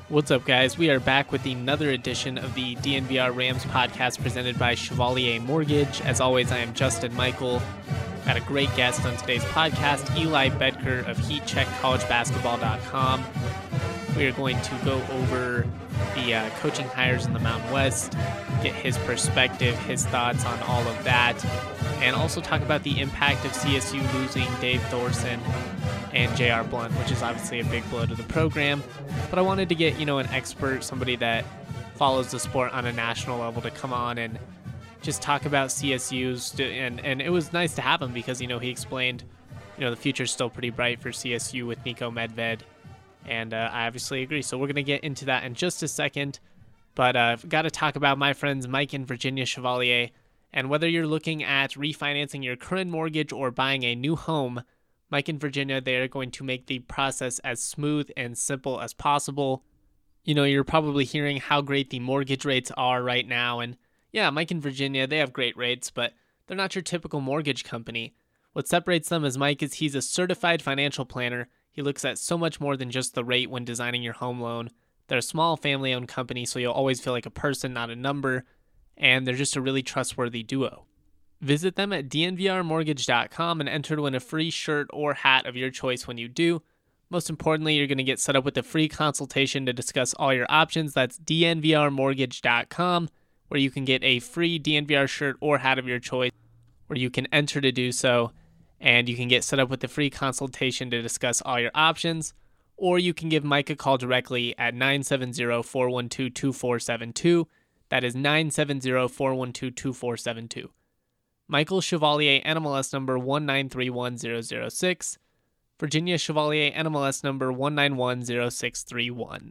What's up, guys? We are back with another edition of the DNVR Rams podcast presented by Chevalier Mortgage. As always, I am Justin Michael. Got a great guest on today's podcast, Eli Bedker of HeatCheckCollegeBasketball.com. We are going to go over the coaching hires in the Mountain West, get his perspective, his thoughts on all of that, and also talk about the impact of CSU losing Dave Thorson and J.R. Blount, which is obviously a big blow to the program. But I wanted to get, an expert, somebody that follows the sport on a national level to come on and just talk about CSU's. And it was nice to have him because, he explained, the future's still pretty bright for CSU with Niko Medved. And I obviously agree. So we're going to get into that in just a second. But I've got to talk about my friends Mike and Virginia Chevalier. And whether you're looking at refinancing your current mortgage or buying a new home, Mike and Virginia, they are going to make the process as smooth and simple as possible. You're probably hearing how great the mortgage rates are right now. And yeah, Mike and Virginia, they have great rates, but they're not your typical mortgage company. What separates them is Mike is he's a certified financial planner. He looks at so much more than just the rate when designing your home loan. They're a small family-owned company, so you'll always feel like a person, not a number. And they're just a really trustworthy duo. Visit them at dnvrmortgage.com and enter to win a free shirt or hat of your choice when you do. Most importantly, you're going to get set up with a free consultation to discuss all your options. That's dnvrmortgage.com, where you can get a free DNVR shirt or hat of your choice, where you can enter to do so, and you can get set up with a free consultation to discuss all your options, or you can give Mike a call directly at 970-412-2472. That is 970-412-2472. Michael Chevalier, NMLS number 1931006. Virginia Chevalier, NMLS number 1910631.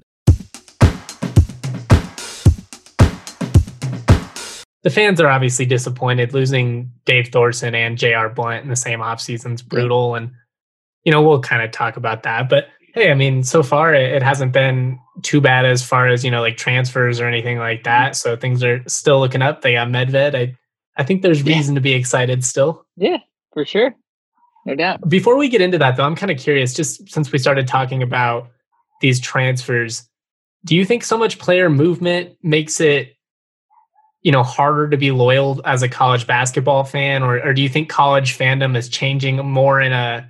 The fans are obviously disappointed. Losing Dave Thorson and J.R. Blount in the same offseason is brutal. And, we'll kind of talk about that. But, hey, so far it hasn't been too bad as far as, like transfers or anything like that. So things are still looking up. They got Medved. I think there's reason to be excited still. Yeah, for sure. No doubt. Before we get into that, though, I'm kind of curious, just since we started talking about these transfers, do you think so much player movement makes it, harder to be loyal as a college basketball fan? Or do you think college fandom is changing more in a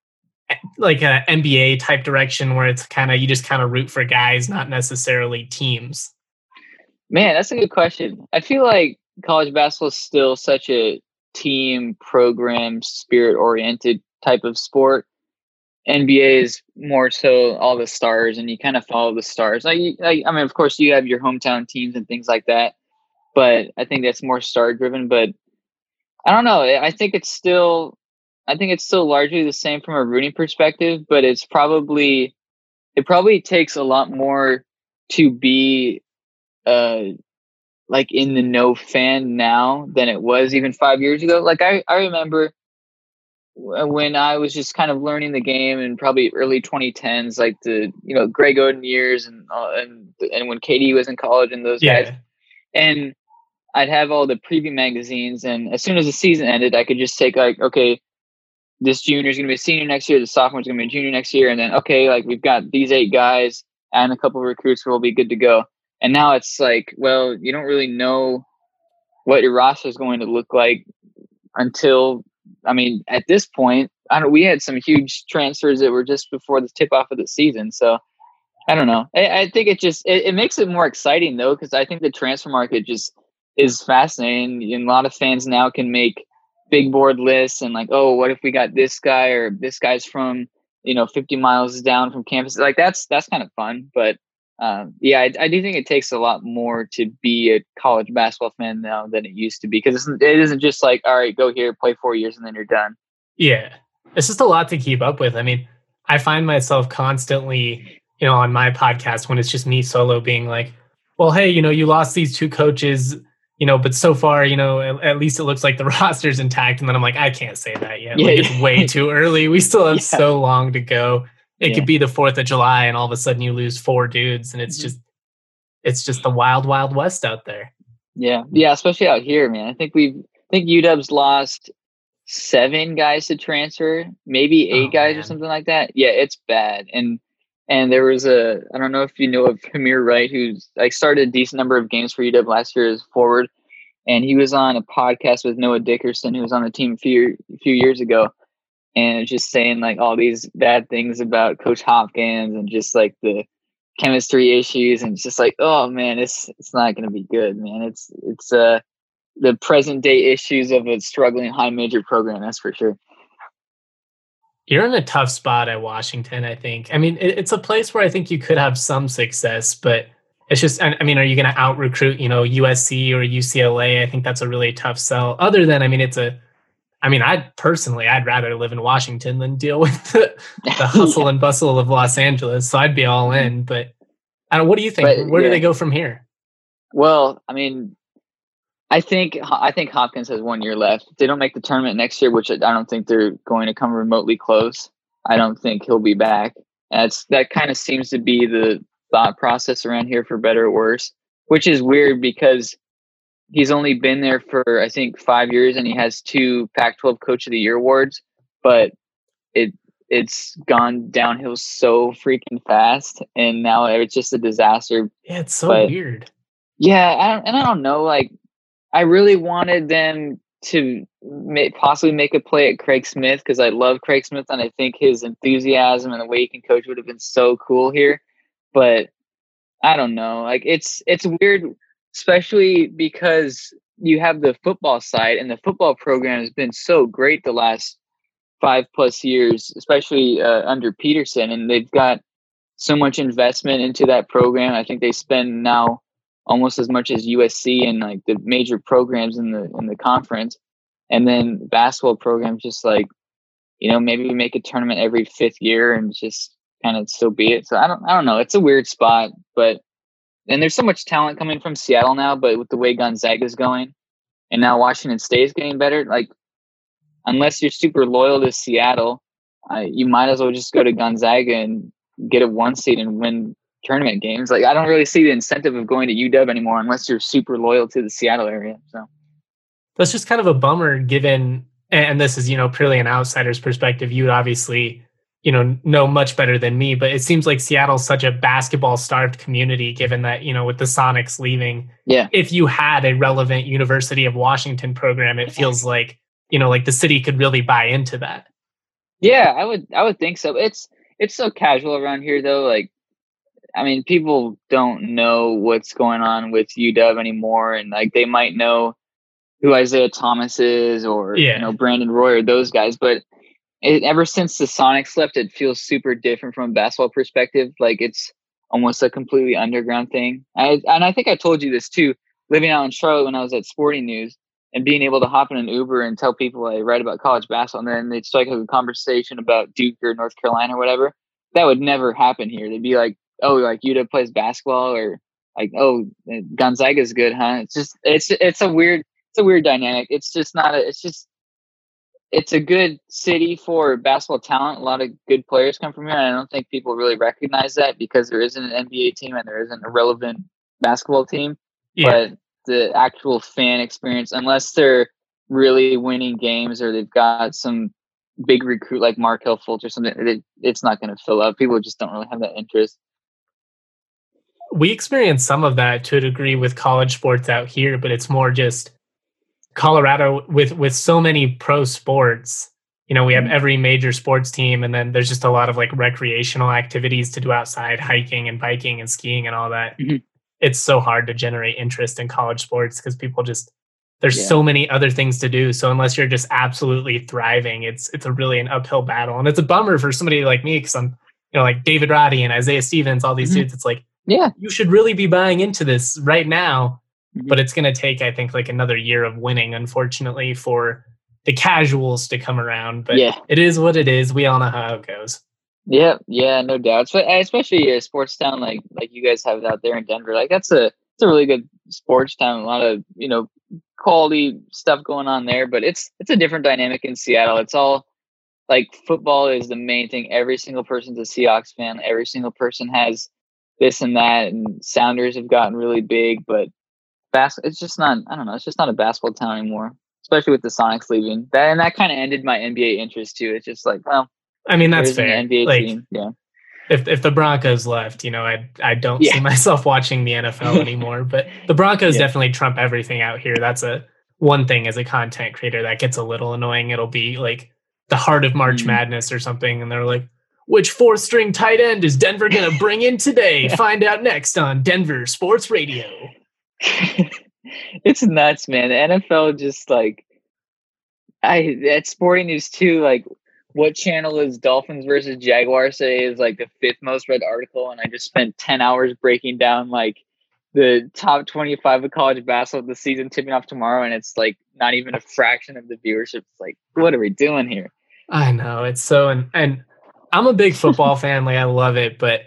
NBA type direction where it's you just root for guys, not necessarily teams? Man, that's a good question. I feel like college basketball is still such a team program, spirit oriented type of sport. NBA is more so all the stars, and you kind of follow the stars. Of course, you have your hometown teams and things like that, but I think that's more star driven. But I don't know. I think it's still largely the same from a rooting perspective, but it probably takes a lot more to be in the know fan now than it was even 5 years ago. I remember when I was just kind of learning the game in probably early 2010s, like the Greg Oden years and when KD was in college and those guys, and I'd have all the preview magazines, and as soon as the season ended, I could just take okay, this junior is going to be a senior next year, the sophomore is going to be a junior next year, and then we've got these 8 guys and a couple of recruits who will be good to go. And now it's you don't really know what your roster is going to look like until, at this point, we had some huge transfers that were just before the tip off of the season. So I don't know. I think it makes it more exciting though, because I think the transfer market just is fascinating. And a lot of fans now can make big board lists and what if we got this guy, or this guy's from, 50 miles down from campus. That's kind of fun. But I do think it takes a lot more to be a college basketball fan now than it used to be, because it isn't just all right, go here, play 4 years, and then you're done. Yeah, it's just a lot to keep up with. I find myself constantly, on my podcast when it's just me solo being well, hey, you lost these 2 coaches, but so far, at least it looks like the roster's intact. And then I'm I can't say that yet. It's way too early. We still have so long to go. It could be the 4th of July and all of a sudden you lose 4 dudes, and it's just the wild, wild west out there. Yeah. Yeah. Especially out here, man. I think UW's lost 7 guys to transfer, maybe 8 guys or something like that. Yeah. It's bad. And And there was I don't know if you know of Hamir Wright, who's like started a decent number of games for UW last year as forward. And he was on a podcast with Noah Dickerson, who was on the team a few years ago. And just saying like all these bad things about Coach Hopkins and just like the chemistry issues. And it's just like, oh man, it's not going to be good, man. It's the present day issues of a struggling high major program. That's for sure. You're in a tough spot at Washington, I think. I mean, it's a place where I think you could have some success, but it's just, I mean, are you going to out recruit, USC or UCLA? I think that's a really tough sell. Other than, I mean, I'd rather live in Washington than deal with the hustle and bustle of Los Angeles. So I'd be all in, but what do you think? Where do they go from here? Well, I mean, I think Hopkins has 1 year left. If they don't make the tournament next year, which I don't think they're going to come remotely close, I don't think he'll be back. That kind of seems to be the thought process around here, for better or worse, which is weird because he's only been there for, I think, 5 years, and he has 2 Pac-12 Coach of the Year awards, but it's gone downhill so freaking fast, and now it's just a disaster. Yeah, it's so weird. Yeah, I don't know, like, I really wanted them to possibly make a play at Craig Smith because I love Craig Smith and I think his enthusiasm and the way he can coach would have been so cool here. But I don't know. Like it's weird, especially because you have the football side and the football program has been so great the last 5+ years, especially under Peterson, and they've got so much investment into that program. I think they spend now almost as much as USC and like the major programs in the conference. And then basketball programs just like, maybe we make a tournament every 5th year and just kind of so be it. So I don't know. It's a weird spot, and there's so much talent coming from Seattle now, but with the way Gonzaga is going and now Washington State is getting better, like unless you're super loyal to Seattle, you might as well just go to Gonzaga and get a 1 seed and win tournament games. Like I don't really see the incentive of going to UW anymore unless you're super loyal to the Seattle area. So that's just kind of a bummer given, and this is, purely an outsider's perspective. You would obviously, know much better than me, but it seems like Seattle's such a basketball starved community given that, with the Sonics leaving. Yeah. If you had a relevant University of Washington program, it feels like, like the city could really buy into that. Yeah, I would think so. It's so casual around here though. Like, I mean, people don't know what's going on with UW anymore. And like, they might know who Isaiah Thomas is or, Brandon Roy or those guys. But ever since the Sonics left, it feels super different from a basketball perspective. Like it's almost a completely underground thing. And I think I told you this too, living out in Charlotte when I was at Sporting News and being able to hop in an Uber and tell people I write about college basketball. And then they'd strike up a conversation about Duke or North Carolina or whatever. That would never happen here. They'd be like, oh, like UW plays basketball, or like, oh, Gonzaga's good, huh? It's just it's a weird dynamic. It's a good city for basketball talent. A lot of good players come from here, and I don't think people really recognize that because there isn't an NBA team and there isn't a relevant basketball team. Yeah. But the actual fan experience, unless they're really winning games or they've got some big recruit like Markelle Fultz or something, it's not going to fill up. People just don't really have that interest. We experience some of that to a degree with college sports out here, but it's more just Colorado with so many pro sports. We have every major sports team, and then there's just a lot of like recreational activities to do outside, hiking and biking and skiing and all that. Mm-hmm. It's so hard to generate interest in college sports because people there's so many other things to do. So unless you're just absolutely thriving, it's an uphill battle. And it's a bummer for somebody like me because I'm, like David Roddy and Isaiah Stevens, all these dudes. It's like, yeah, you should really be buying into this right now, but it's going to take, I think, like another year of winning, unfortunately, for the casuals to come around. But it is what it is. We all know how it goes. Yeah, no doubt. Especially a sports town like you guys have out there in Denver. Like it's a really good sports town. A lot of quality stuff going on there, but it's a different dynamic in Seattle. It's all like football is the main thing. Every single person's a Seahawks fan. Every single person has this and that, and Sounders have gotten really big, but it's just not, I don't know, it's just not a basketball town anymore, especially with the Sonics leaving. That kind of ended my NBA interest too. It's just like, well, I mean, that's fair. NBA team. Yeah. if the Broncos left, I don't see Yeah. myself watching the NFL anymore. But the Broncos Yeah. definitely trump everything out here. That's a one thing as a content creator that gets a little annoying. It'll be like the heart of March Mm. Madness or something, and they're like, which fourth string tight end is Denver gonna bring in today? Find out next on Denver Sports Radio. It's nuts, man. The NFL just like at Sporting News too, like what channel is Dolphins versus Jaguars today is like the 5th most read article, and I just spent 10 hours breaking down like the top 25 of college basketball the season tipping off tomorrow, and it's like not even a fraction of the viewership. It's like, what are we doing here? I know, it's so, and I'm a big football fan, like I love it, but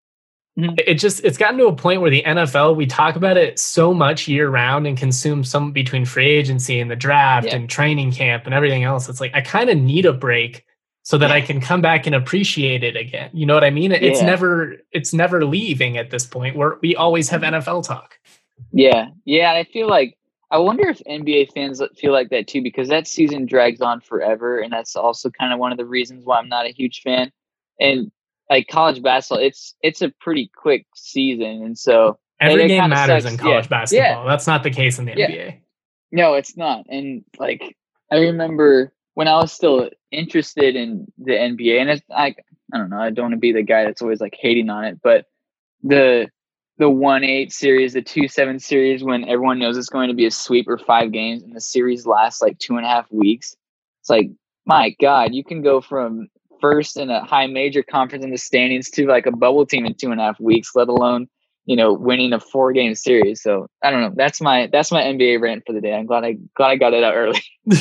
it's gotten to a point where the NFL, we talk about it so much year round and consume some between free agency and the draft and training camp and everything else. It's like I kind of need a break so that I can come back and appreciate it again. You know what I mean? It's never leaving at this point where we always have NFL talk. Yeah. Yeah. And I feel like, I wonder if NBA fans feel like that too, because that season drags on forever. And that's also kind of one of the reasons why I'm not a huge fan. And like college basketball, it's a pretty quick season. And so every game matters in college basketball. That's not the case in the NBA. No, it's not. And like, I remember when I was still interested in the NBA, and it's like, I don't know, I don't want to be the guy that's always like hating on it, but the 1-8 series, the 2-7 series, when everyone knows it's going to be a sweep or 5 games and the series lasts like 2.5 weeks. It's like, my God, you can go from first in a high major conference in the standings to like a bubble team in 2.5 weeks, let alone, winning a 4-game series. So I don't know. That's my NBA rant for the day. I'm glad I got it out early.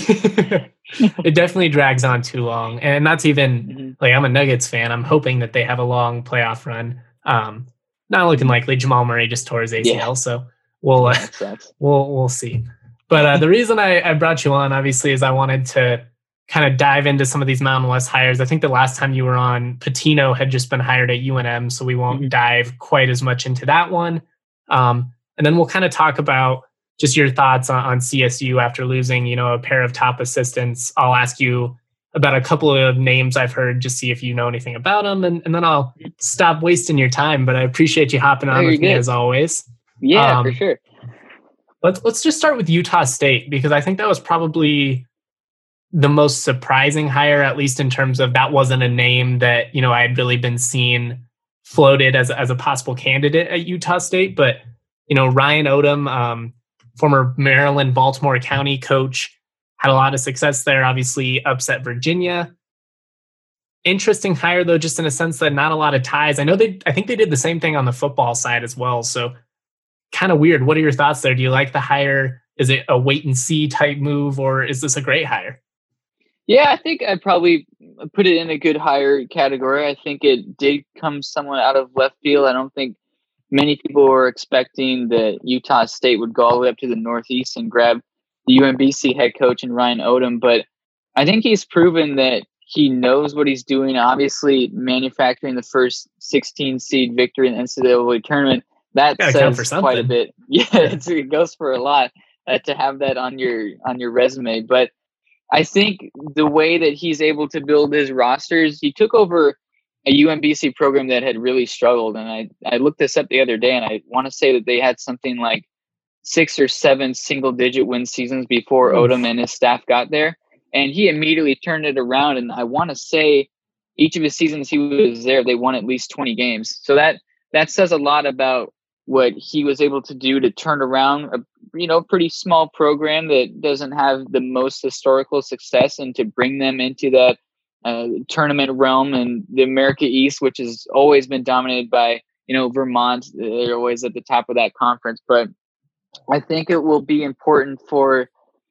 It definitely drags on too long. And that's even like, I'm a Nuggets fan. I'm hoping that they have a long playoff run. Not looking likely. Jamal Murray just tore his ACL, so we'll see. But the reason I brought you on, obviously, is I wanted to kind of dive into some of these Mountain West hires. I think the last time you were on, Patino had just been hired at UNM, so we won't dive quite as much into that one. And then we'll kind of talk about just your thoughts on CSU after losing, a pair of top assistants. I'll ask you about a couple of names I've heard, just see if you know anything about them, and then I'll stop wasting your time. But I appreciate you hopping on with me as always. Yeah, for sure. Let's just start with Utah State, because I think that was probably the most surprising hire, at least in terms of that wasn't a name that I had really been seen floated as a possible candidate at Utah State. But Ryan Odom, former Maryland Baltimore County coach, had a lot of success there, obviously upset Virginia. Interesting hire, though, just in a sense that not a lot of ties. I think they did the same thing on the football side as well. So kind of weird. What are your thoughts there? Do you like the hire? Is it a wait and see type move, or is this a great hire? Yeah, I think I'd probably put it in a good hire category. I think it did come somewhat out of left field. I don't think many people were expecting that Utah State would go all the way up to the Northeast and grab the UMBC head coach and Ryan Odom, but I think he's proven that he knows what he's doing. Obviously, manufacturing the first 16 seed victory in the NCAA tournament, that says quite a bit. Yeah, it goes for a lot to have that on your resume. But I think the way that he's able to build his rosters, he took over a UMBC program that had really struggled, and I looked this up the other day, and I want to say that they had something like 6 or 7 single-digit win seasons before Odom and his staff got there. And he immediately turned it around. And I want to say each of his seasons he was there, they won at least 20 games. So that says a lot about what he was able to do to turn around a pretty small program that doesn't have the most historical success, and to bring them into that tournament realm and the America East, which has always been dominated by, Vermont. They're always at the top of that conference. But I think it will be important for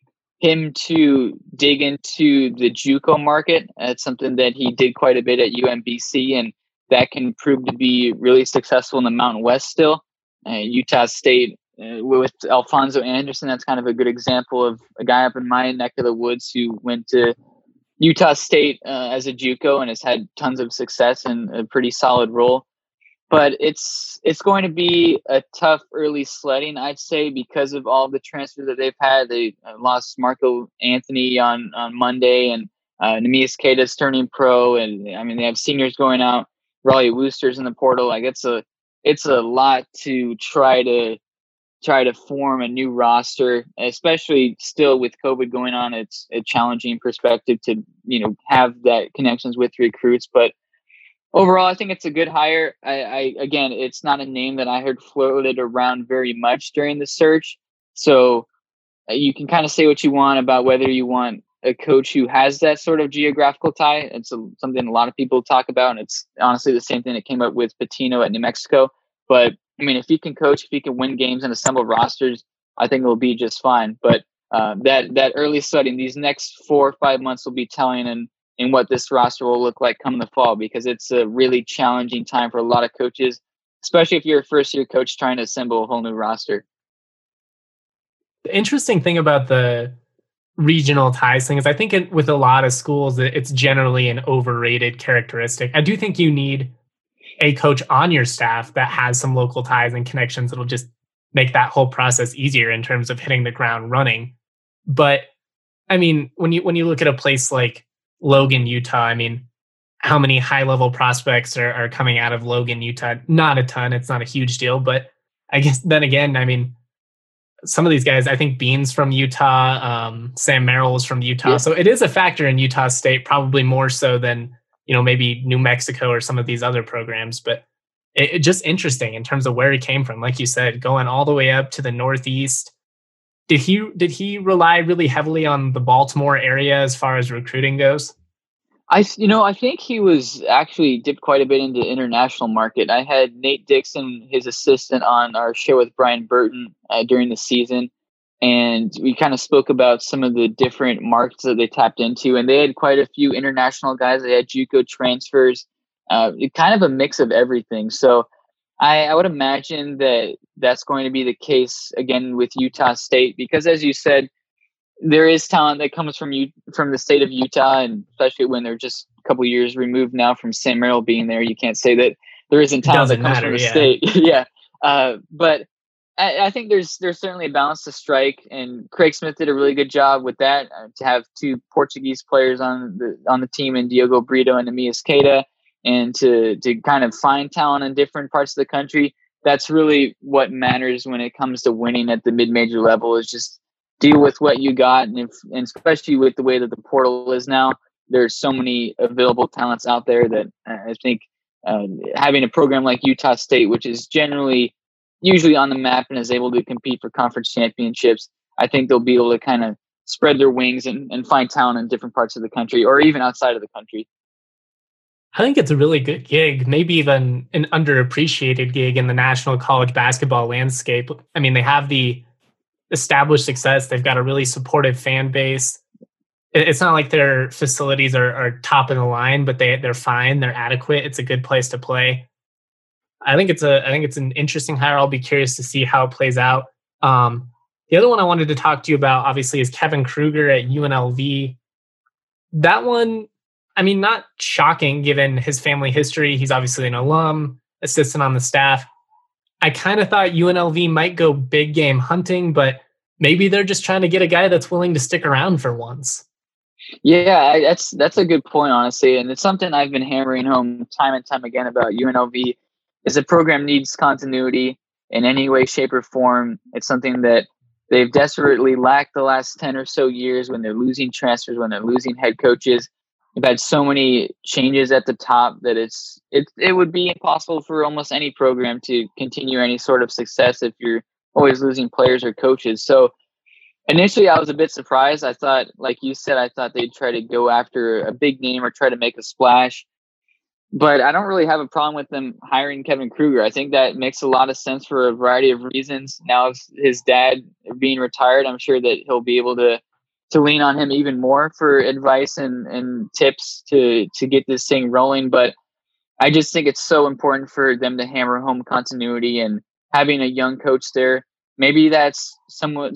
him to dig into the JUCO market. That's something that he did quite a bit at UMBC, and that can prove to be really successful in the Mountain West still. Utah State with Alfonso Anderson, that's kind of a good example of a guy up in my neck of the woods who went to Utah State as a JUCO and has had tons of success and a pretty solid role. But it's going to be a tough early sledding, I'd say, because of all the transfers that they've had. They lost Marco Anthony on Monday, and Neemias Queta's turning pro. And I mean, they have seniors going out. Raleigh Woosters in the portal. Like it's a lot to try to form a new roster, especially still with COVID going on. It's a challenging perspective to, have that connections with recruits. But overall, I think it's a good hire. I again, it's not a name that I heard floated around very much during the search. So you can kind of say what you want about whether you want a coach who has that sort of geographical tie. It's something a lot of people talk about, and it's honestly the same thing that came up with Patino at New Mexico. But I mean, if he can coach, if he can win games and assemble rosters, I think it'll be just fine. But that early studying, these next 4 or 5 months will be telling in what this roster will look like come the fall, because it's a really challenging time for a lot of coaches, especially if you're a first-year coach trying to assemble a whole new roster. The interesting thing about the regional ties thing is I think with a lot of schools, it's generally an overrated characteristic. I do think you need a coach on your staff that has some local ties and connections that'll just make that whole process easier in terms of hitting the ground running. But I mean, when you look at a place like Logan, Utah, I mean, how many high-level prospects are coming out of Logan, Utah? Not a ton. It's not a huge deal. But I guess then again, I mean, some of these guys, I think Bean's from Utah, Sam Merrill's from Utah. Yeah. So it is a factor in Utah State, probably more so than, maybe New Mexico or some of these other programs. But it just interesting in terms of where he came from. Like you said, going all the way up to the Northeast. Did he rely really heavily on the Baltimore area as far as recruiting goes? I think he was actually dipped quite a bit into international market. I had Nate Dixon, his assistant, on our show with Brian Burton during the season, and we kind of spoke about some of the different markets that they tapped into, and they had quite a few international guys. They had JUCO transfers, kind of a mix of everything. So I would imagine that that's going to be the case again with Utah State, because as you said, there is talent that comes from the state of Utah, and especially when they're just a couple years removed now from Sam Merrill being there, you can't say that there isn't talent that comes from the state. Yeah. But I think there's certainly a balance to strike, and Craig Smith did a really good job with that. To have 2 Portuguese players on the team, in Diogo Brito and Amias Queda, and to kind of find talent in different parts of the country. That's really what matters when it comes to winning at the mid-major level, is just deal with what you got. And especially with the way that the portal is now, there's so many available talents out there that I think having a program like Utah State, which is usually on the map and is able to compete for conference championships, I think they'll be able to kind of spread their wings and find talent in different parts of the country or even outside of the country. I think it's a really good gig, maybe even an underappreciated gig in the national college basketball landscape. I mean, they have the established success. They've got a really supportive fan base. It's not like their facilities are top of the line, but they're fine. They're adequate. It's a good place to play. I think it's an interesting hire. I'll be curious to see how it plays out. The other one I wanted to talk to you about, obviously, is Kevin Kruger at UNLV. That one, I mean, not shocking given his family history. He's obviously an alum, assistant on the staff. I kind of thought UNLV might go big game hunting, but maybe they're just trying to get a guy that's willing to stick around for once. Yeah, that's a good point, honestly. And it's something I've been hammering home time and time again about UNLV, is the program needs continuity in any way, shape, or form. It's something that they've desperately lacked the last 10 or so years, when they're losing transfers, when they're losing head coaches. They've had so many changes at the top that it would be impossible for almost any program to continue any sort of success if you're always losing players or coaches. So initially I was a bit surprised. I thought, like you said, I thought they'd try to go after a big name or try to make a splash. But I don't really have a problem with them hiring Kevin Kruger. I think that makes a lot of sense for a variety of reasons. Now, his dad being retired, I'm sure that he'll be able to lean on him even more for advice and tips to get this thing rolling. But I just think it's so important for them to hammer home continuity, and having a young coach there. Maybe that's somewhat,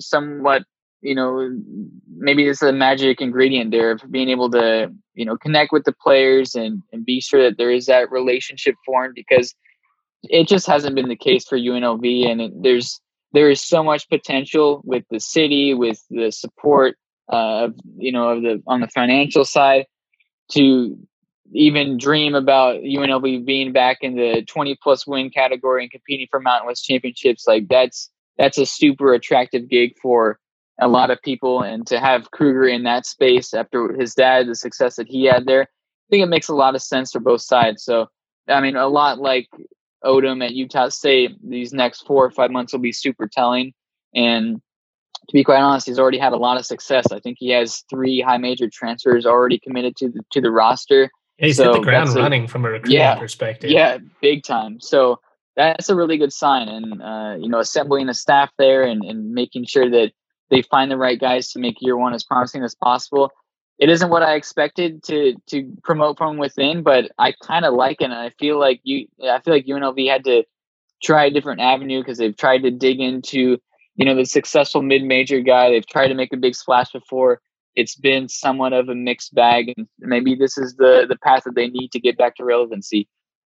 maybe it's a magic ingredient there of being able to, connect with the players and be sure that there is that relationship formed, because it just hasn't been the case for UNLV. And there is so much potential with the city, with the support on the financial side, to even dream about UNLV being back in the 20+ win category and competing for Mountain West championships, like that's a super attractive gig for a lot of people. And to have Kruger in that space after his dad, the success that he had there, I think it makes a lot of sense for both sides. So, I mean, a lot like Odom at Utah State, these next 4 or 5 months will be super telling. And to be quite honest, he's already had a lot of success. I think he has 3 high major transfers already committed to the roster. Yeah, he's hit the ground running from a recruiting perspective. Yeah, big time. So that's a really good sign. And, assembling a staff there and making sure that they find the right guys to make year one as promising as possible. It isn't what I expected to promote from within, but I kind of like it. And I feel like UNLV had to try a different avenue because they've tried to dig into, the successful mid-major guy. They've tried to make a big splash before. It's been somewhat of a mixed bag, and maybe this is the path that they need to get back to relevancy.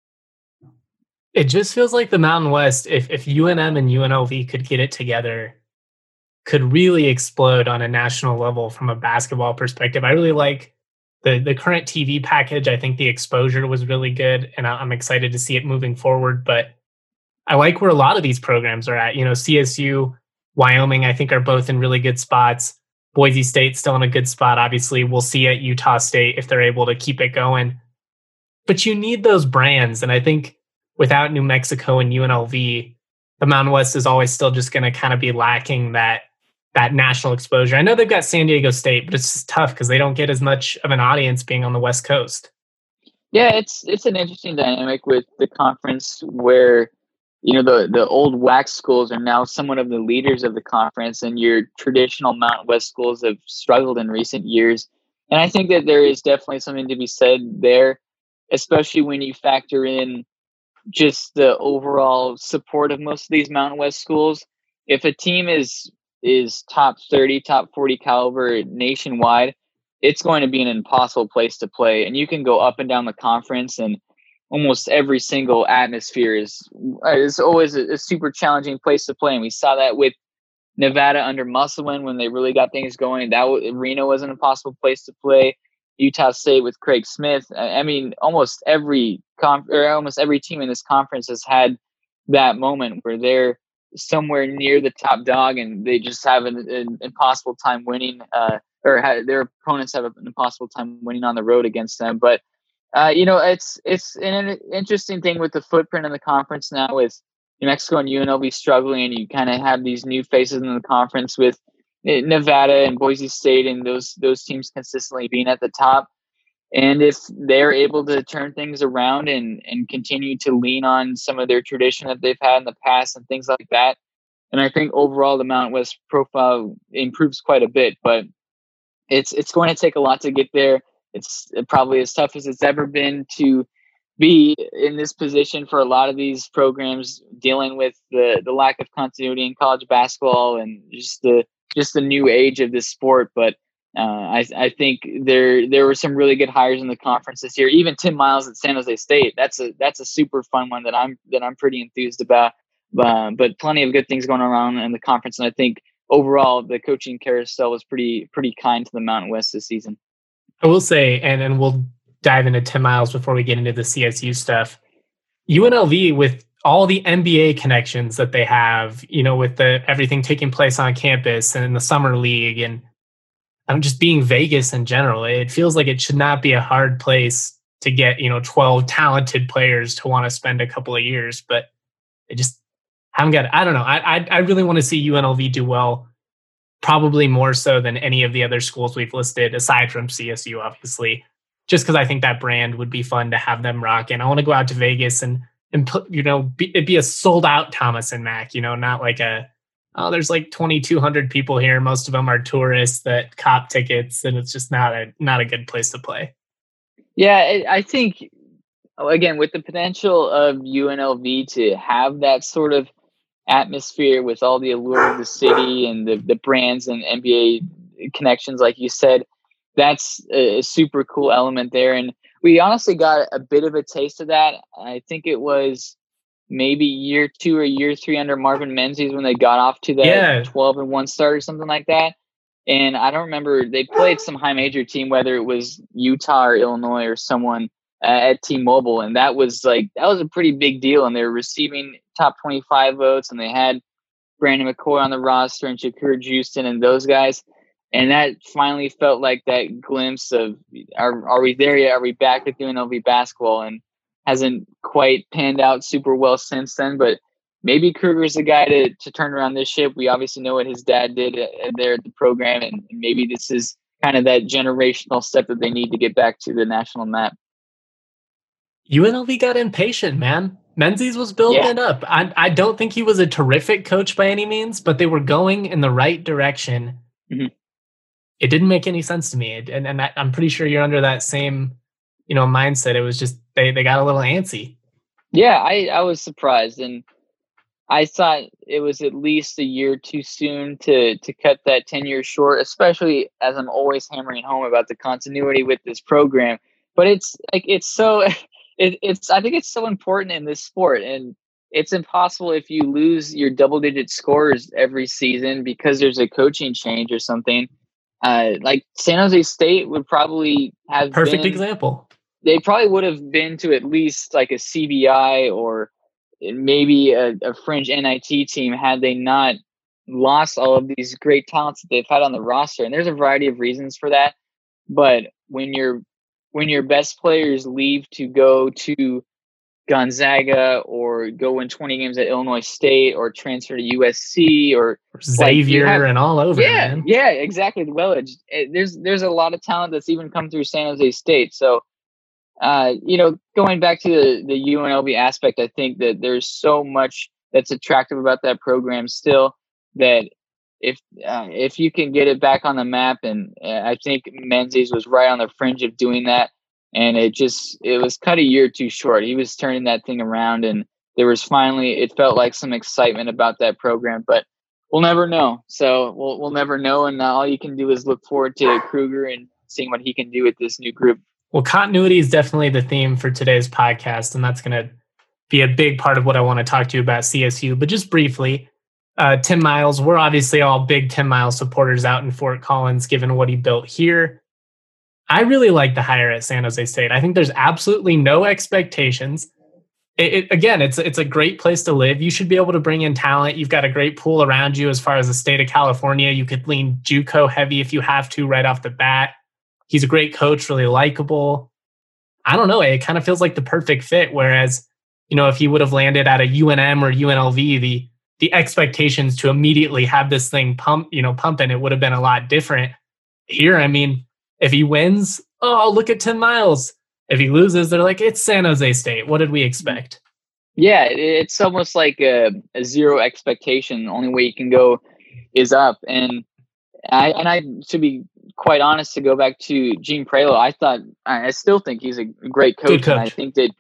It just feels like the Mountain West, if UNM and UNLV could get it together, could really explode on a national level from a basketball perspective. I really like the current TV package. I think the exposure was really good, and I'm excited to see it moving forward. But I like where a lot of these programs are at. CSU, Wyoming, I think are both in really good spots. Boise State still in a good spot. Obviously, we'll see at Utah State if they're able to keep it going. But you need those brands. And I think without New Mexico and UNLV, the Mountain West is always still just going to kind of be lacking that national exposure. I know they've got San Diego State, but it's just tough because they don't get as much of an audience being on the West Coast. Yeah, it's an interesting dynamic with the conference where the old WAC schools are now somewhat of the leaders of the conference, and your traditional Mountain West schools have struggled in recent years. And I think that there is definitely something to be said there, especially when you factor in just the overall support of most of these Mountain West schools. If a team is top 30, top 40 caliber nationwide, it's going to be an impossible place to play. And you can go up and down the conference, and almost every single atmosphere is always a super challenging place to play. And we saw that with Nevada under Musselman when they really got things going. Reno was an impossible place to play. Utah State with Craig Smith. I mean, almost every team in this conference has had that moment where they're somewhere near the top dog and they just have an impossible time winning, their opponents have an impossible time winning on the road against them. But it's an interesting thing with the footprint in the conference now, with New Mexico and UNLV struggling, and you kind of have these new faces in the conference with Nevada and Boise State and those teams consistently being at the top. And if they're able to turn things around and continue to lean on some of their tradition that they've had in the past and things like that, and I think overall the Mountain West profile improves quite a bit. But it's going to take a lot to get there. It's probably as tough as it's ever been to be in this position for a lot of these programs, dealing with the lack of continuity in college basketball and just the new age of this sport. But I think there were some really good hires in the conference this year. Even Tim Miles at San Jose State, that's a super fun one that I'm pretty enthused about. But plenty of good things going around in the conference, and I think overall the coaching carousel was pretty kind to the Mountain West this season. I will say, and we'll dive into Tim Miles before we get into the CSU stuff. UNLV, with all the NBA connections that they have, with everything taking place on campus and in the summer league, and just being Vegas in general, it feels like it should not be a hard place to get 12 talented players to want to spend a couple of years. But they just haven't got it. I don't know. I really want to see UNLV do well. Probably more so than any of the other schools we've listed, aside from CSU, obviously, just because I think that brand would be fun to have them rock. And I want to go out to Vegas and put, it'd be a sold out Thomas and Mack, not like there's like 2,200 people here. Most of them are tourists that cop tickets, and it's just not a good place to play. Yeah, I think, again, with the potential of UNLV to have that sort of atmosphere with all the allure of the city and the brands and NBA connections, like you said, that's a super cool element there. And we honestly got a bit of a taste of that. I think it was maybe year 2 or year 3 under Marvin Menzies when they got off to that 12-1 start or something like that. And I don't remember, they played some high major team, whether it was Utah or Illinois or someone at T-Mobile, and that was a pretty big deal. And they were receiving top 25 votes, and they had Brandon McCoy on the roster and Shakur Juiston and those guys. And that finally felt like that glimpse of, are we there yet? Are we back with UNLV basketball? And hasn't quite panned out super well since then. But maybe Kruger's the guy to turn around this ship. We obviously know what his dad did there at the program, and maybe this is kind of that generational step that they need to get back to the national map. UNLV got impatient, man. Menzies was building it up. I don't think he was a terrific coach by any means, but they were going in the right direction. Mm-hmm. It didn't make any sense to me. And I'm pretty sure you're under that same, mindset. It was just, they got a little antsy. Yeah, I was surprised. And I thought it was at least a year too soon to cut that 10 years short, especially as I'm always hammering home about the continuity with this program. But I think it's so important in this sport, and it's impossible if you lose your double-digit scores every season because there's a coaching change or something. Like San Jose State would probably have perfect example. They probably would have been to at least like a CBI or maybe a fringe NIT team had they not lost all of these great talents that they've had on the roster. And there's a variety of reasons for that. But when your best players leave to go to Gonzaga or go win 20 games at Illinois State or transfer to USC or Xavier and all over. Yeah, man. Yeah, exactly. Well, there's a lot of talent that's even come through San Jose State. So, going back to the UNLV aspect, I think that there's so much that's attractive about that program still that if you can get it back on the map, and I think Menzies was right on the fringe of doing that, and it was cut a year too short. He was turning that thing around, and there was finally, it felt like some excitement about that program, but we'll never know. So we'll never know, and all you can do is look forward to Kruger and seeing what he can do with this new group. Well, continuity is definitely the theme for today's podcast, and that's going to be a big part of what I want to talk to you about CSU. But just briefly, Tim Miles, we're obviously all big Tim Miles supporters out in Fort Collins, given what he built here. I really like the hire at San Jose State. I think there's absolutely no expectations. Again, it's a great place to live. You should be able to bring in talent. You've got a great pool around you as far as the state of California. You could lean JUCO heavy if you have to right off the bat. He's a great coach, really likable. I don't know. It kind of feels like the perfect fit. Whereas, if he would have landed at a UNM or UNLV, the expectations to immediately have this thing pumping, it would have been a lot different. Here, I mean, if he wins, oh, look at Tim Miles. If he loses, they're like, it's San Jose State. What did we expect? Yeah, it's almost like a zero expectation. The only way you can go is up. And I to be quite honest, to go back to Gene Prelo, I still think he's a great coach. Good coach. And I think that,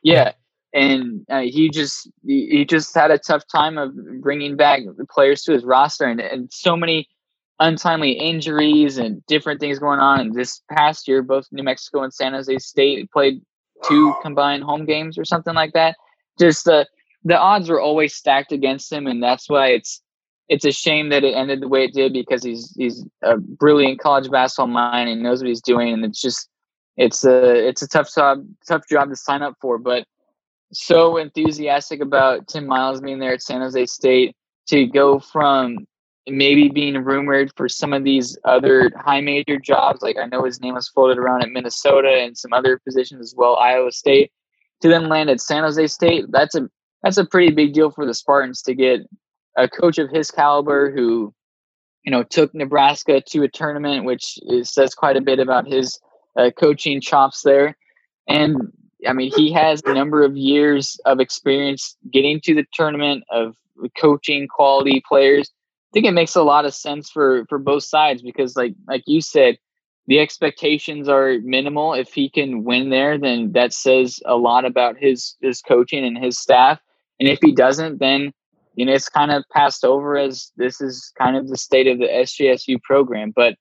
and he just had a tough time of bringing back the players to his roster, and so many untimely injuries and different things going on. And this past year, both New Mexico and San Jose State played 2 combined home games or something like that. Just the odds were always stacked against him, and that's why it's a shame that it ended the way it did, because he's a brilliant college basketball mind and knows what he's doing, and it's a tough job to sign up for. But so enthusiastic about Tim Miles being there at San Jose State, to go from maybe being rumored for some of these other high major jobs, like I know his name was floated around at Minnesota and some other positions as well, Iowa State, to then land at San Jose State. That's a pretty big deal for the Spartans to get a coach of his caliber who, took Nebraska to a tournament, which says quite a bit about his coaching chops there. And I mean, he has a number of years of experience getting to the tournament, of coaching quality players. I think it makes a lot of sense for both sides, because like you said, the expectations are minimal. If he can win there, then that says a lot about his coaching and his staff. And if he doesn't, then it's kind of passed over as this is kind of the state of the SJSU program. But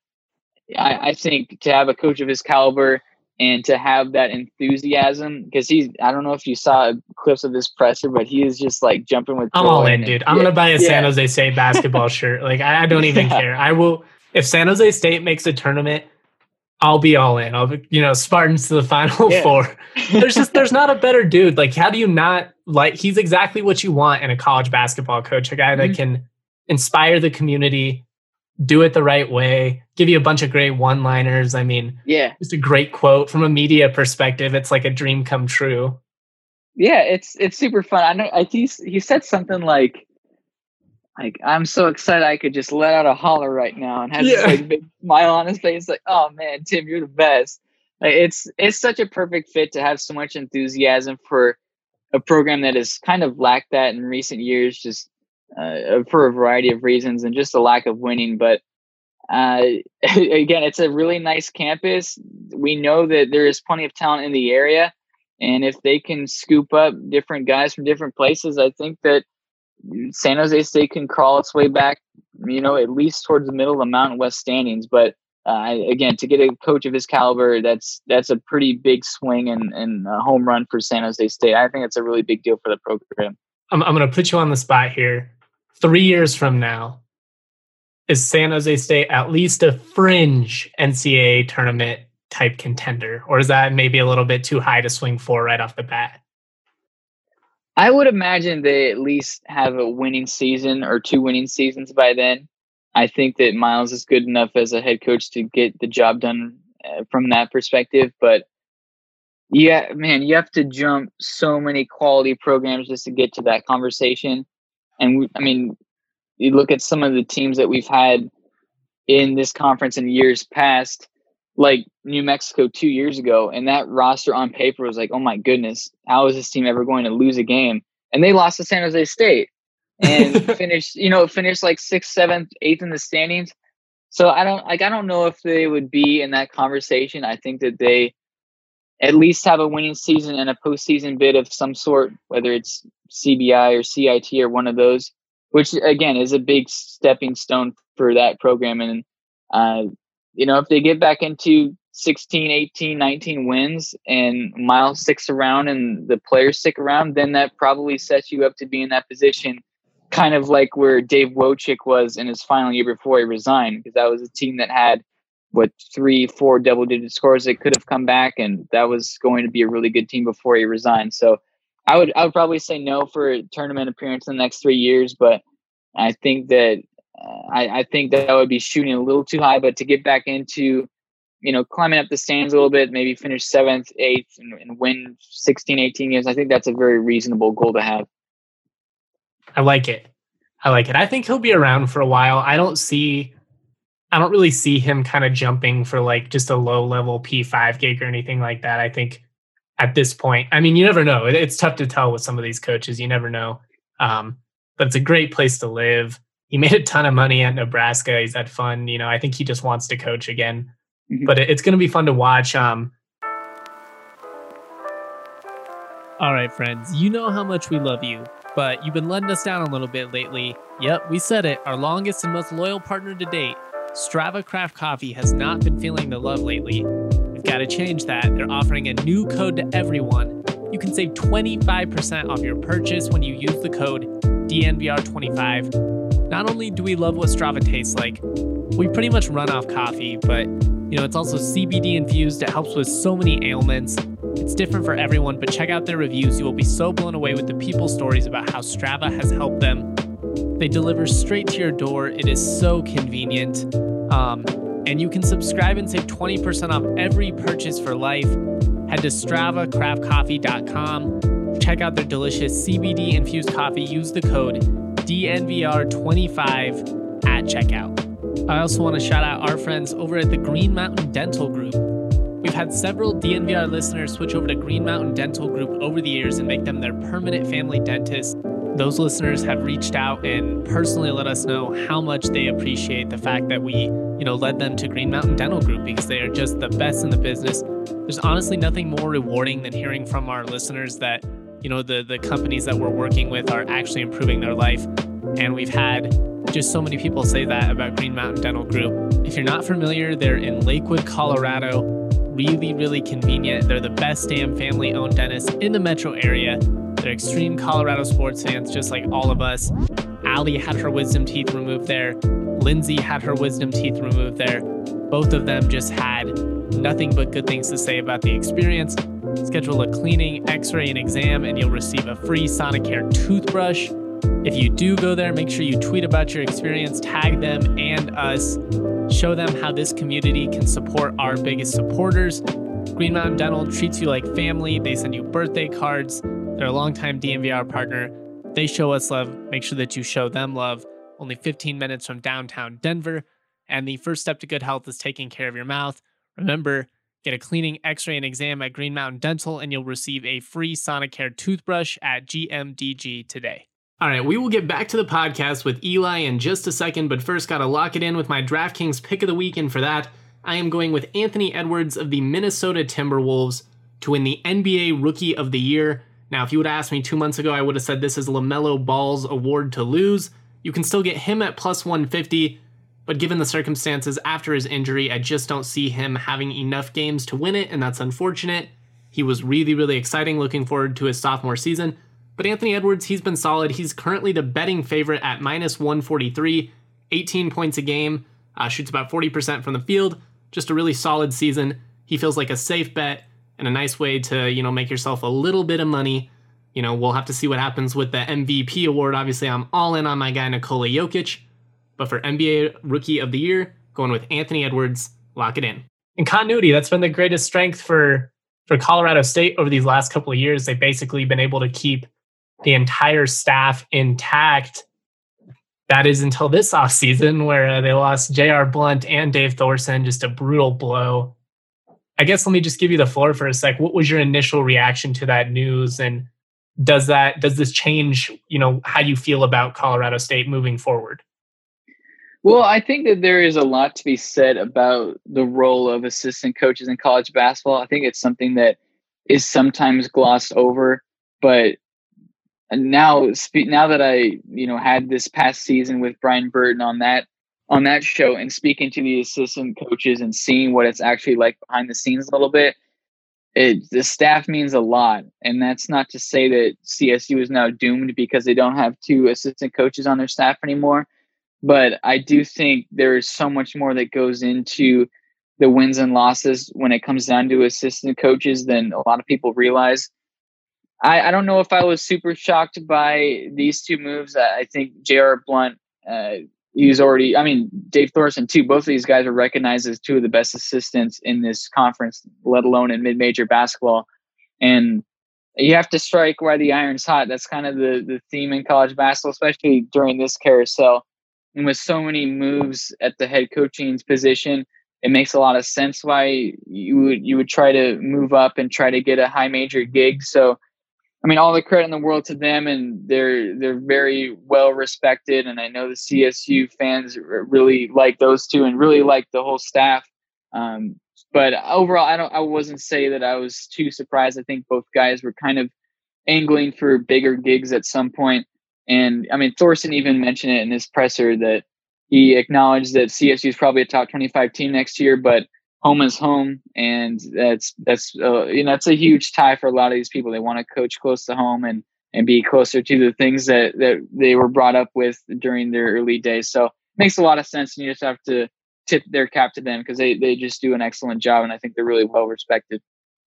I think to have a coach of his caliber and to have that enthusiasm, because I don't know if you saw clips of this presser, but he is just like jumping with joy. I'm all in, dude. I'm going to buy a San Jose State basketball shirt. Like, I don't even care. I will. If San Jose State makes a tournament, I'll be all in. I'll be, Spartans to the Final Four. There's not a better dude. Like, how do you not like? He's exactly what you want in a college basketball coach, a guy that can inspire the community, do it the right way, give you a bunch of great one-liners. I mean, just a great quote from a media perspective. It's like a dream come true. Yeah, it's super fun. I know. He said something like I'm so excited I could just let out a holler right now, and has this like big smile on his face. Like, oh man, Tim, you're the best. Like, it's such a perfect fit to have so much enthusiasm for a program that has kind of lacked that in recent years, just for a variety of reasons and just a lack of winning. But again, it's a really nice campus. We know that there is plenty of talent in the area, and if they can scoop up different guys from different places, I think that San Jose State can crawl its way back, at least towards the middle of the Mountain West standings. But again, to get a coach of his caliber, that's a pretty big swing and a home run for San Jose State. I think it's a really big deal for the program. I'm going to put you on the spot here. 3 years from now, is San Jose State at least a fringe NCAA tournament type contender? Or is that maybe a little bit too high to swing for right off the bat? I would imagine they at least have a winning season or 2 winning seasons by then. I think that Miles is good enough as a head coach to get the job done from that perspective. But yeah, man, you have to jump so many quality programs just to get to that conversation. And you look at some of the teams that we've had in this conference in years past, like New Mexico 2 years ago, and that roster on paper was like, oh my goodness, how is this team ever going to lose a game? And they lost to San Jose State and finished like 6th, 7th, 8th in the standings. So I don't know if they would be in that conversation. I think that they at least have a winning season and a postseason bid of some sort, whether it's CBI or CIT or one of those, which again is a big stepping stone for that program. And if they get back into 16, 18, 19 wins and Miles sticks around and the players stick around, then that probably sets you up to be in that position, kind of like where Dave Wojcik was in his final year before he resigned, because that was a team that had 3-4 double-digit scores that could have come back, and that was going to be a really good team before he resigned. So I would probably say no for a tournament appearance in the next 3 years, but I think that I think that would be shooting a little too high. But to get back into, climbing up the stands a little bit, maybe finish 7th, 8th, and win 16, 18 games, I think that's a very reasonable goal to have. I like it. I think he'll be around for a while. I don't really see him kind of jumping for like just a low level P5 gig or anything like that. I think at this point, you never know. It's tough to tell with some of these coaches. You never know. But it's a great place to live. He made a ton of money at Nebraska. He's had fun. I think he just wants to coach again. Mm-hmm. But it's going to be fun to watch. All right, friends. You know how much we love you, but you've been letting us down a little bit lately. Yep, we said it. Our longest and most loyal partner to date, Strava Craft Coffee, has not been feeling the love lately. We've got to change that. They're offering a new code to everyone. You can save 25% off your purchase when you use the code DNVR25. Not only do we love what Strava tastes like, we pretty much run off coffee, but it's also CBD infused. It helps with so many ailments. It's different for everyone, but check out their reviews. You will be so blown away with the people's stories about how Strava has helped them. They deliver straight to your door. It is so convenient. And you can subscribe and save 20% off every purchase for life. Head to StravaCraftCoffee.com. Check out their delicious CBD infused coffee. Use the code DNVR25 at checkout. I also want to shout out our friends over at the Green Mountain Dental Group. We've had several DNVR listeners switch over to Green Mountain Dental Group over the years and make them their permanent family dentist. Those listeners have reached out and personally let us know how much they appreciate the fact that we, led them to Green Mountain Dental Group, because they are just the best in the business. There's honestly nothing more rewarding than hearing from our listeners that, the companies that we're working with are actually improving their life. And we've had just so many people say that about Green Mountain Dental Group. If you're not familiar, they're in Lakewood, Colorado. Really, really convenient. They're the best damn family-owned dentist in the metro area. They're extreme Colorado sports fans, just like all of us. Allie had her wisdom teeth removed there. Lindsay had her wisdom teeth removed there. Both of them just had nothing but good things to say about the experience. Schedule a cleaning, x-ray, and exam, and you'll receive a free Sonicare toothbrush. If you do go there, make sure you tweet about your experience, tag them and us, show them how this community can support our biggest supporters. Green Mountain Dental treats you like family. They send you birthday cards. They're a longtime DNVR partner. They show us love. Make sure that you show them love. Only 15 minutes from downtown Denver. And the first step to good health is taking care of your mouth. Remember, get a cleaning, x-ray, and exam at Green Mountain Dental, and you'll receive a free Sonicare toothbrush at GMDG today. All right, we will get back to the podcast with Eli in just a second, but first got to lock it in with my DraftKings pick of the week, and for that, I am going with Anthony Edwards of the Minnesota Timberwolves to win the NBA Rookie of the Year. Now, if you would have asked me 2 months ago, I would have said this is LaMelo Ball's award to lose. You can still get him at plus 150, but given the circumstances after his injury, I just don't see him having enough games to win it, and that's unfortunate. He was really, really exciting, looking forward to his sophomore season. But Anthony Edwards, he's been solid. He's currently the betting favorite at minus 143, 18 points a game, shoots about 40% from the field. Just a really solid season. He feels like a safe bet and a nice way to, make yourself a little bit of money. We'll have to see what happens with the MVP award. Obviously, I'm all in on my guy Nikola Jokic. But for NBA Rookie of the Year, going with Anthony Edwards, lock it in. In continuity, that's been the greatest strength for Colorado State over these last couple of years. They've basically been able to keep the entire staff intact. That is until this offseason where they lost J.R. Blount and Dave Thorson, just a brutal blow. I guess let me just give you the floor for a sec. What was your initial reaction to that news? And does this change, how you feel about Colorado State moving forward? Well, I think that there is a lot to be said about the role of assistant coaches in college basketball. I think it's something that is sometimes glossed over, but now that I, had this past season with Brian Burton on that show and speaking to the assistant coaches and seeing what it's actually like behind the scenes a little bit, the staff means a lot. And that's not to say that CSU is now doomed because they don't have 2 assistant coaches on their staff anymore. But I do think there is so much more that goes into the wins and losses when it comes down to assistant coaches than a lot of people realize. I don't know if I was super shocked by these 2 moves. I think J.R. Blount, Dave Thorson too. Both of these guys are recognized as 2 of the best assistants in this conference, let alone in mid-major basketball. And you have to strike while the iron's hot. That's kind of the theme in college basketball, especially during this carousel. And with so many moves at the head coaching position, it makes a lot of sense why you would try to move up and try to get a high major gig. So, all the credit in the world to them, and they're very well respected. And I know the CSU fans really like those 2 and really like the whole staff. But overall, I wasn't say that I was too surprised. I think both guys were kind of angling for bigger gigs at some point. And Thorson even mentioned it in his presser that he acknowledged that CSU is probably a top 25 team next year, but home is home. And that's a huge tie for a lot of these people. They want to coach close to home and be closer to the things that they were brought up with during their early days. So it makes a lot of sense. And you just have to tip their cap to them because they just do an excellent job. And I think they're really well respected.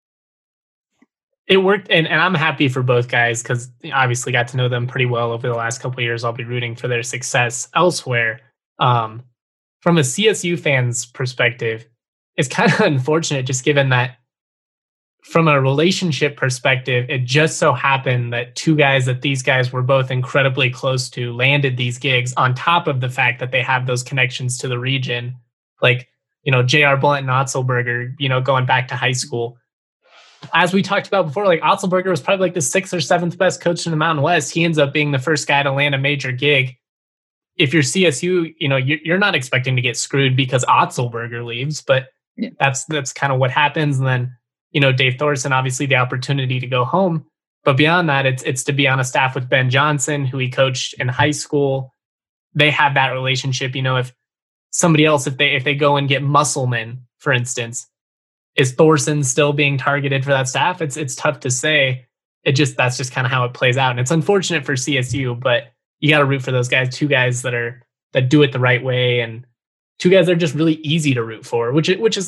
It worked, and I'm happy for both guys because obviously got to know them pretty well over the last couple of years. I'll be rooting for their success elsewhere. From a CSU fan's perspective, it's kind of unfortunate just given that from a relationship perspective, it just so happened that 2 guys that these guys were both incredibly close to landed these gigs on top of the fact that they have those connections to the region. Like, J.R. Blount and Otzelberger, going back to high school. As we talked about before, like Otzelberger was probably like the 6th or 7th best coach in the Mountain West. He ends up being the first guy to land a major gig. If you're CSU, you're not expecting to get screwed because Otzelberger leaves, but yeah, that's kind of what happens. And then, Dave Thorson, obviously the opportunity to go home. But beyond that, it's to be on a staff with Ben Johnson, who he coached in high school. They have that relationship. If somebody else, if they go and get Musselman, for instance, is Thorson still being targeted for that staff? It's tough to say. That's just kind of how it plays out. And it's unfortunate for CSU, but you got to root for those guys, 2 guys that do it the right way, and 2 guys that are just really easy to root for, which is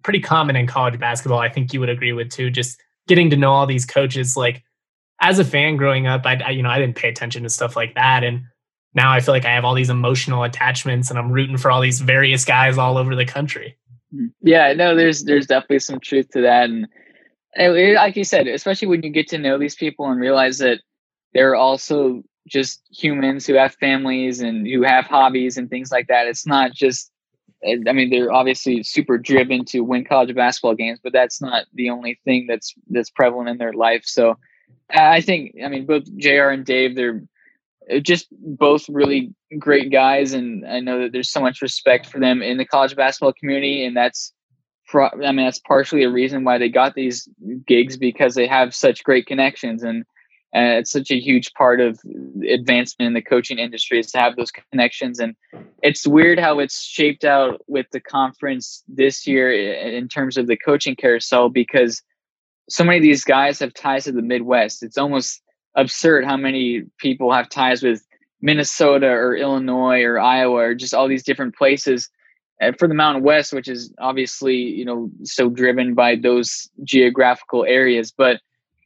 pretty common in college basketball. I think you would agree with too. Just getting to know all these coaches. Like as a fan growing up, I didn't pay attention to stuff like that, and now I feel like I have all these emotional attachments, and I'm rooting for all these various guys all over the country. Yeah, no, there's definitely some truth to that, and like you said, especially when you get to know these people and realize that they're also just humans who have families and who have hobbies and things like that. It's not just, I mean, they're obviously super driven to win college basketball games, but that's not the only thing that's prevalent in their life. So I think, I mean, both JR and Dave, they're just both really great guys. And I know that there's so much respect for them in the college basketball community. And that's partially a reason why they got these gigs, because they have such great connections. And it's such a huge part of advancement in the coaching industry is to have those connections. And it's weird how it's shaped out with the conference this year in terms of the coaching carousel, because so many of these guys have ties to the Midwest. It's almost absurd how many people have ties with Minnesota or Illinois or Iowa or just all these different places. And for the Mountain West, which is obviously, so driven by those geographical areas. But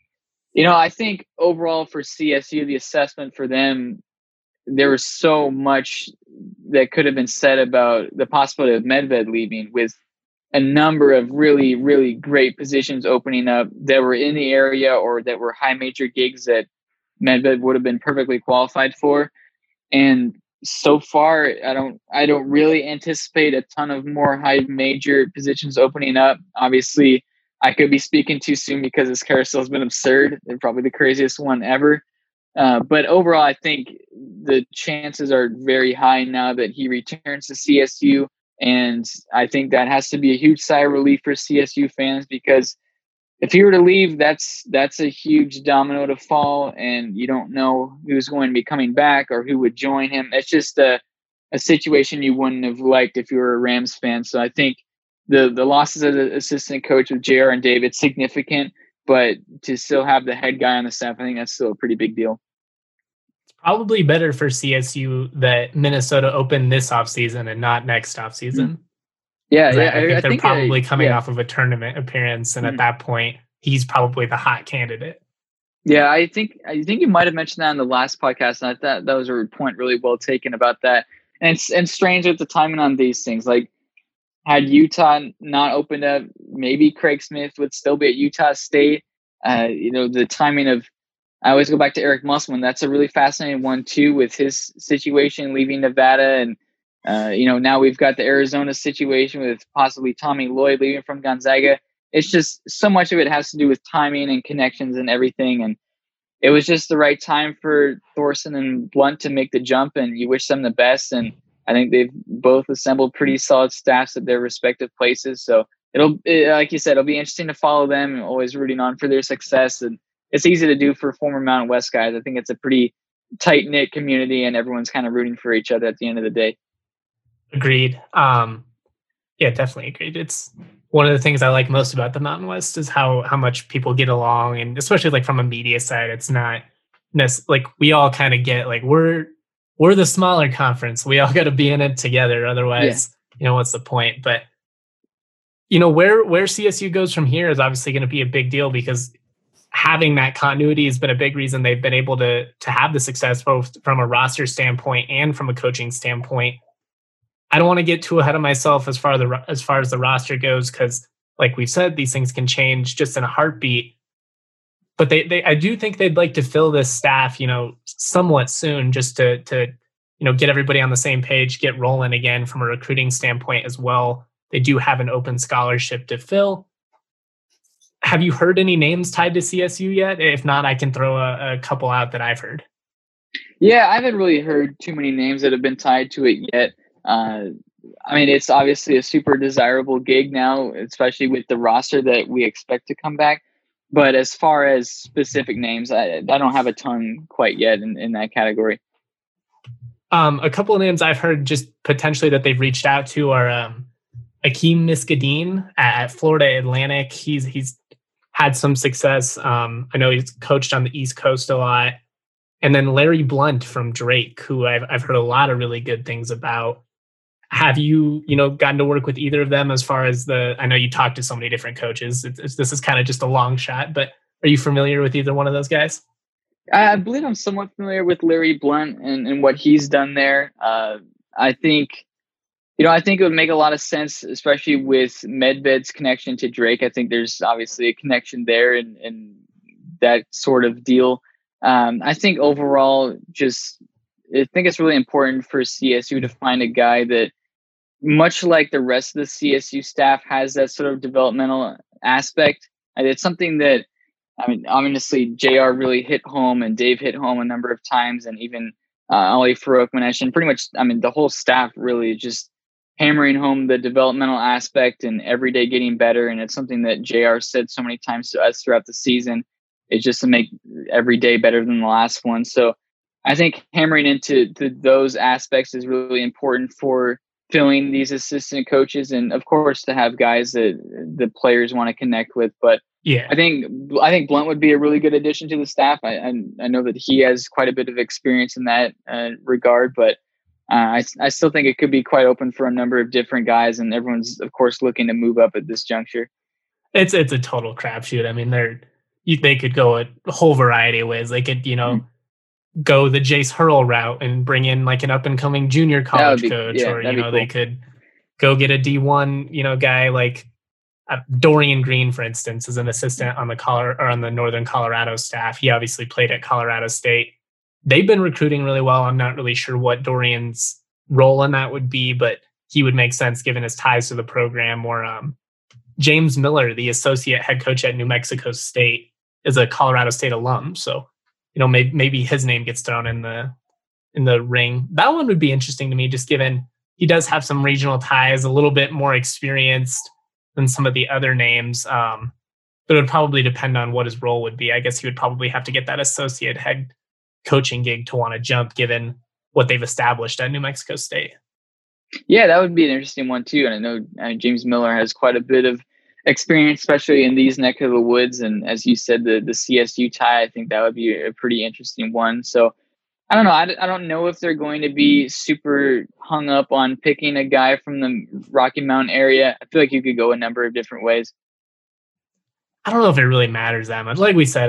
I think overall for CSU, the assessment for them, there was so much that could have been said about the possibility of Medved leaving, with a number of really, really great positions opening up that were in the area or that were high major gigs that Medved would have been perfectly qualified for. And so far, I don't really anticipate a ton of more high major positions opening up. Obviously, I could be speaking too soon because this carousel has been absurd and probably the craziest one ever. But overall, I think the chances are very high now that he returns to CSU. And I think that has to be a huge sigh of relief for CSU fans, because if he were to leave, that's a huge domino to fall, and you don't know who's going to be coming back or who would join him. It's just a situation you wouldn't have liked if you were a Rams fan. So I think the losses as an assistant coach with JR and Dave, it's significant, but to still have the head guy on the staff, I think that's still a pretty big deal. It's probably better for CSU that Minnesota opened this offseason and not next offseason. Mm-hmm. Yeah, I think they're probably coming off of a tournament appearance, and at that point, he's probably the hot candidate. Yeah, I think you might have mentioned that in the last podcast, and I thought that was a point really well taken about that. And it's strange with the timing on these things. Like, had Utah not opened up, maybe Craig Smith would still be at Utah State. The timing of, I always go back to Eric Musselman. That's a really fascinating one too, with his situation leaving Nevada, and now we've got the Arizona situation with possibly Tommy Lloyd leaving from Gonzaga. It's just so much of it has to do with timing and connections and everything. And it was just the right time for Thorson and Blunt to make the jump, and you wish them the best. And I think they've both assembled pretty solid staffs at their respective places. So like you said, it'll be interesting to follow them, and always rooting on for their success. And it's easy to do for former Mountain West guys. I think it's a pretty tight knit community, and everyone's kind of rooting for each other at the end of the day. Agreed. Yeah, definitely agreed. It's one of the things I like most about the Mountain West is how much people get along, and especially like from a media side, it's not like we all kind of get like we're the smaller conference. We all got to be in it together. Otherwise, what's the point? But where CSU goes from here is obviously going to be a big deal, because having that continuity has been a big reason they've been able to have the success both from a roster standpoint and from a coaching standpoint. I don't want to get too ahead of myself as far as the roster goes, because like we've said, these things can change just in a heartbeat. But I do think they'd like to fill this staff, somewhat soon, just to get everybody on the same page, get rolling again from a recruiting standpoint as well. They do have an open scholarship to fill. Have you heard any names tied to CSU yet? If not, I can throw a couple out that I've heard. Yeah, I haven't really heard too many names that have been tied to it yet. It's obviously a super desirable gig now, especially with the roster that we expect to come back. But as far as specific names, I don't have a ton quite yet in that category. A couple of names I've heard just potentially that they've reached out to are Akeem Miskadeen at Florida Atlantic. He's had some success. I know he's coached on the East Coast a lot. And then Larry Blunt from Drake, who I've heard a lot of really good things about. Have you, gotten to work with either of them as far as I know you talked to so many different coaches. This is kind of just a long shot, but are you familiar with either one of those guys? I believe I'm somewhat familiar with Larry Blunt and what he's done there. I think it would make a lot of sense, especially with Medved's connection to Drake. I think there's obviously a connection there and that sort of deal. I think overall, I think it's really important for CSU to find a guy that, much like the rest of the CSU staff, has that sort of developmental aspect. And it's something that, obviously JR really hit home and Dave hit home a number of times, and even Ali Farouk-Manesh, and pretty much, the whole staff really just hammering home the developmental aspect and every day getting better. And it's something that JR said so many times to us throughout the season, is just to make every day better than the last one. So I think hammering into those aspects is really important for filling these assistant coaches, and of course to have guys that the players want to connect with. But yeah, I think Blunt would be a really good addition to the staff. I know that he has quite a bit of experience in that regard, but I still think it could be quite open for a number of different guys, and everyone's of course looking to move up at this juncture. It's a total crapshoot. I mean, they could go a whole variety of ways. They could, go the Jace Hurl route and bring in like an up and coming junior college coach, or cool. They could go get a D1, guy like Dorian Green, for instance, is an assistant on the Northern Colorado staff. He obviously played at Colorado State. They've been recruiting really well. I'm not really sure what Dorian's role in that would be, but he would make sense given his ties to the program. Or James Miller, the associate head coach at New Mexico State, is a Colorado State alum. So, maybe his name gets thrown in the ring. That one would be interesting to me, just given he does have some regional ties, a little bit more experienced than some of the other names. But it would probably depend on what his role would be. I guess he would probably have to get that associate head coaching gig to want to jump, given what they've established at New Mexico State. Yeah, that would be an interesting one too. And I know James Miller has quite a bit of experience, especially in these neck of the woods. And as you said, the CSU tie, I think that would be a pretty interesting one. So I don't know. I don't know if they're going to be super hung up on picking a guy from the Rocky Mountain area. I feel like you could go a number of different ways. I don't know if it really matters that much. Like we said,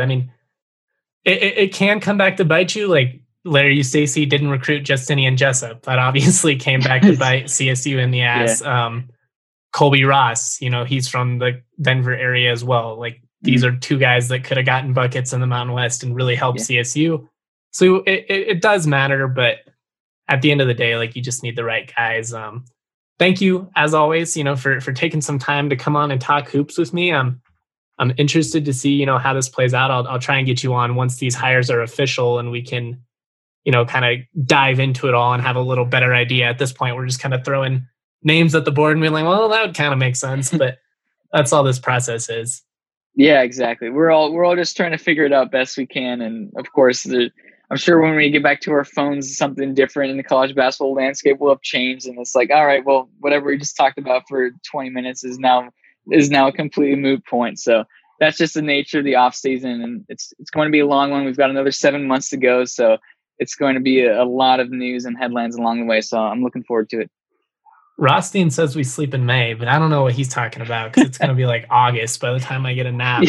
it can come back to bite you. Like Larry Eustachy didn't recruit Justinian Jessup. That obviously came back to bite CSU in the ass. Yeah. Colby Ross, he's from the Denver area as well. Like these are two guys that could have gotten buckets in the Mountain West and really helped CSU. So it does matter, but at the end of the day, like you just need the right guys. Thank you as always, for taking some time to come on and talk hoops with me. I'm interested to see, how this plays out. I'll try and get you on once these hires are official and we can, kind of dive into it all and have a little better idea. At this point, we're just kind of throwing names at the board and being like, well, that would kind of make sense, but that's all this process is. Yeah, exactly. We're all just trying to figure it out best we can. And of course, I'm sure when we get back to our phones, something different in the college basketball landscape will have changed. And it's like, all right, well, whatever we just talked about for 20 minutes is now a completely moot point. So that's just the nature of the off season. And it's going to be a long one. We've got another 7 months to go. So it's going to be a lot of news and headlines along the way. So I'm looking forward to it. Rothstein says we sleep in May, but I don't know what he's talking about because it's going to be like August by the time I get a nap.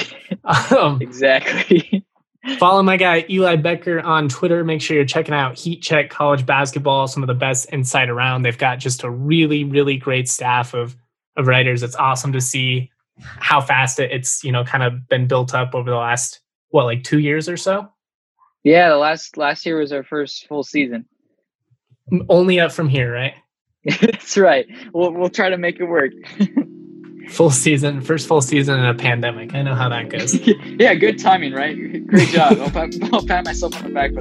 Exactly. Follow my guy, Eli Becker, on Twitter. Make sure you're checking out Heat Check College Basketball, some of the best insight around. They've got just a really, really great staff of writers. It's awesome to see how fast it's, kind of been built up over the last, 2 years or so? Yeah, the last year was our first full season. Only up from here, right? That's right. We'll try to make it work. First full season in a pandemic. I know how that goes. Yeah, good timing, right? Great job. I'll pat myself on the back for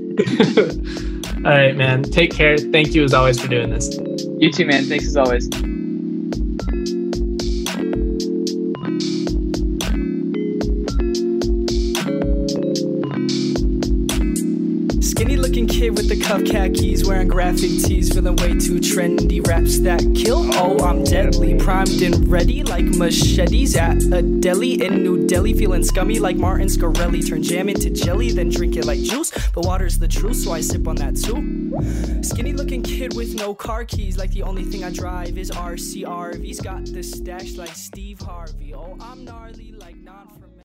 that one. All right, man. Take care. Thank you as always for doing this. You too, man. Thanks as always. Skinny looking kid with the cuff khakis, wearing graphic tees, feeling way too trendy. Raps that kill, oh I'm deadly, primed and ready like machetes at a deli in New Delhi. Feeling scummy like Martin Scarelli, turn jam into jelly, then drink it like juice. But water's the truth, so I sip on that too. Skinny looking kid with no car keys, like the only thing I drive is RCRV's. Got the stash like Steve Harvey, oh I'm gnarly.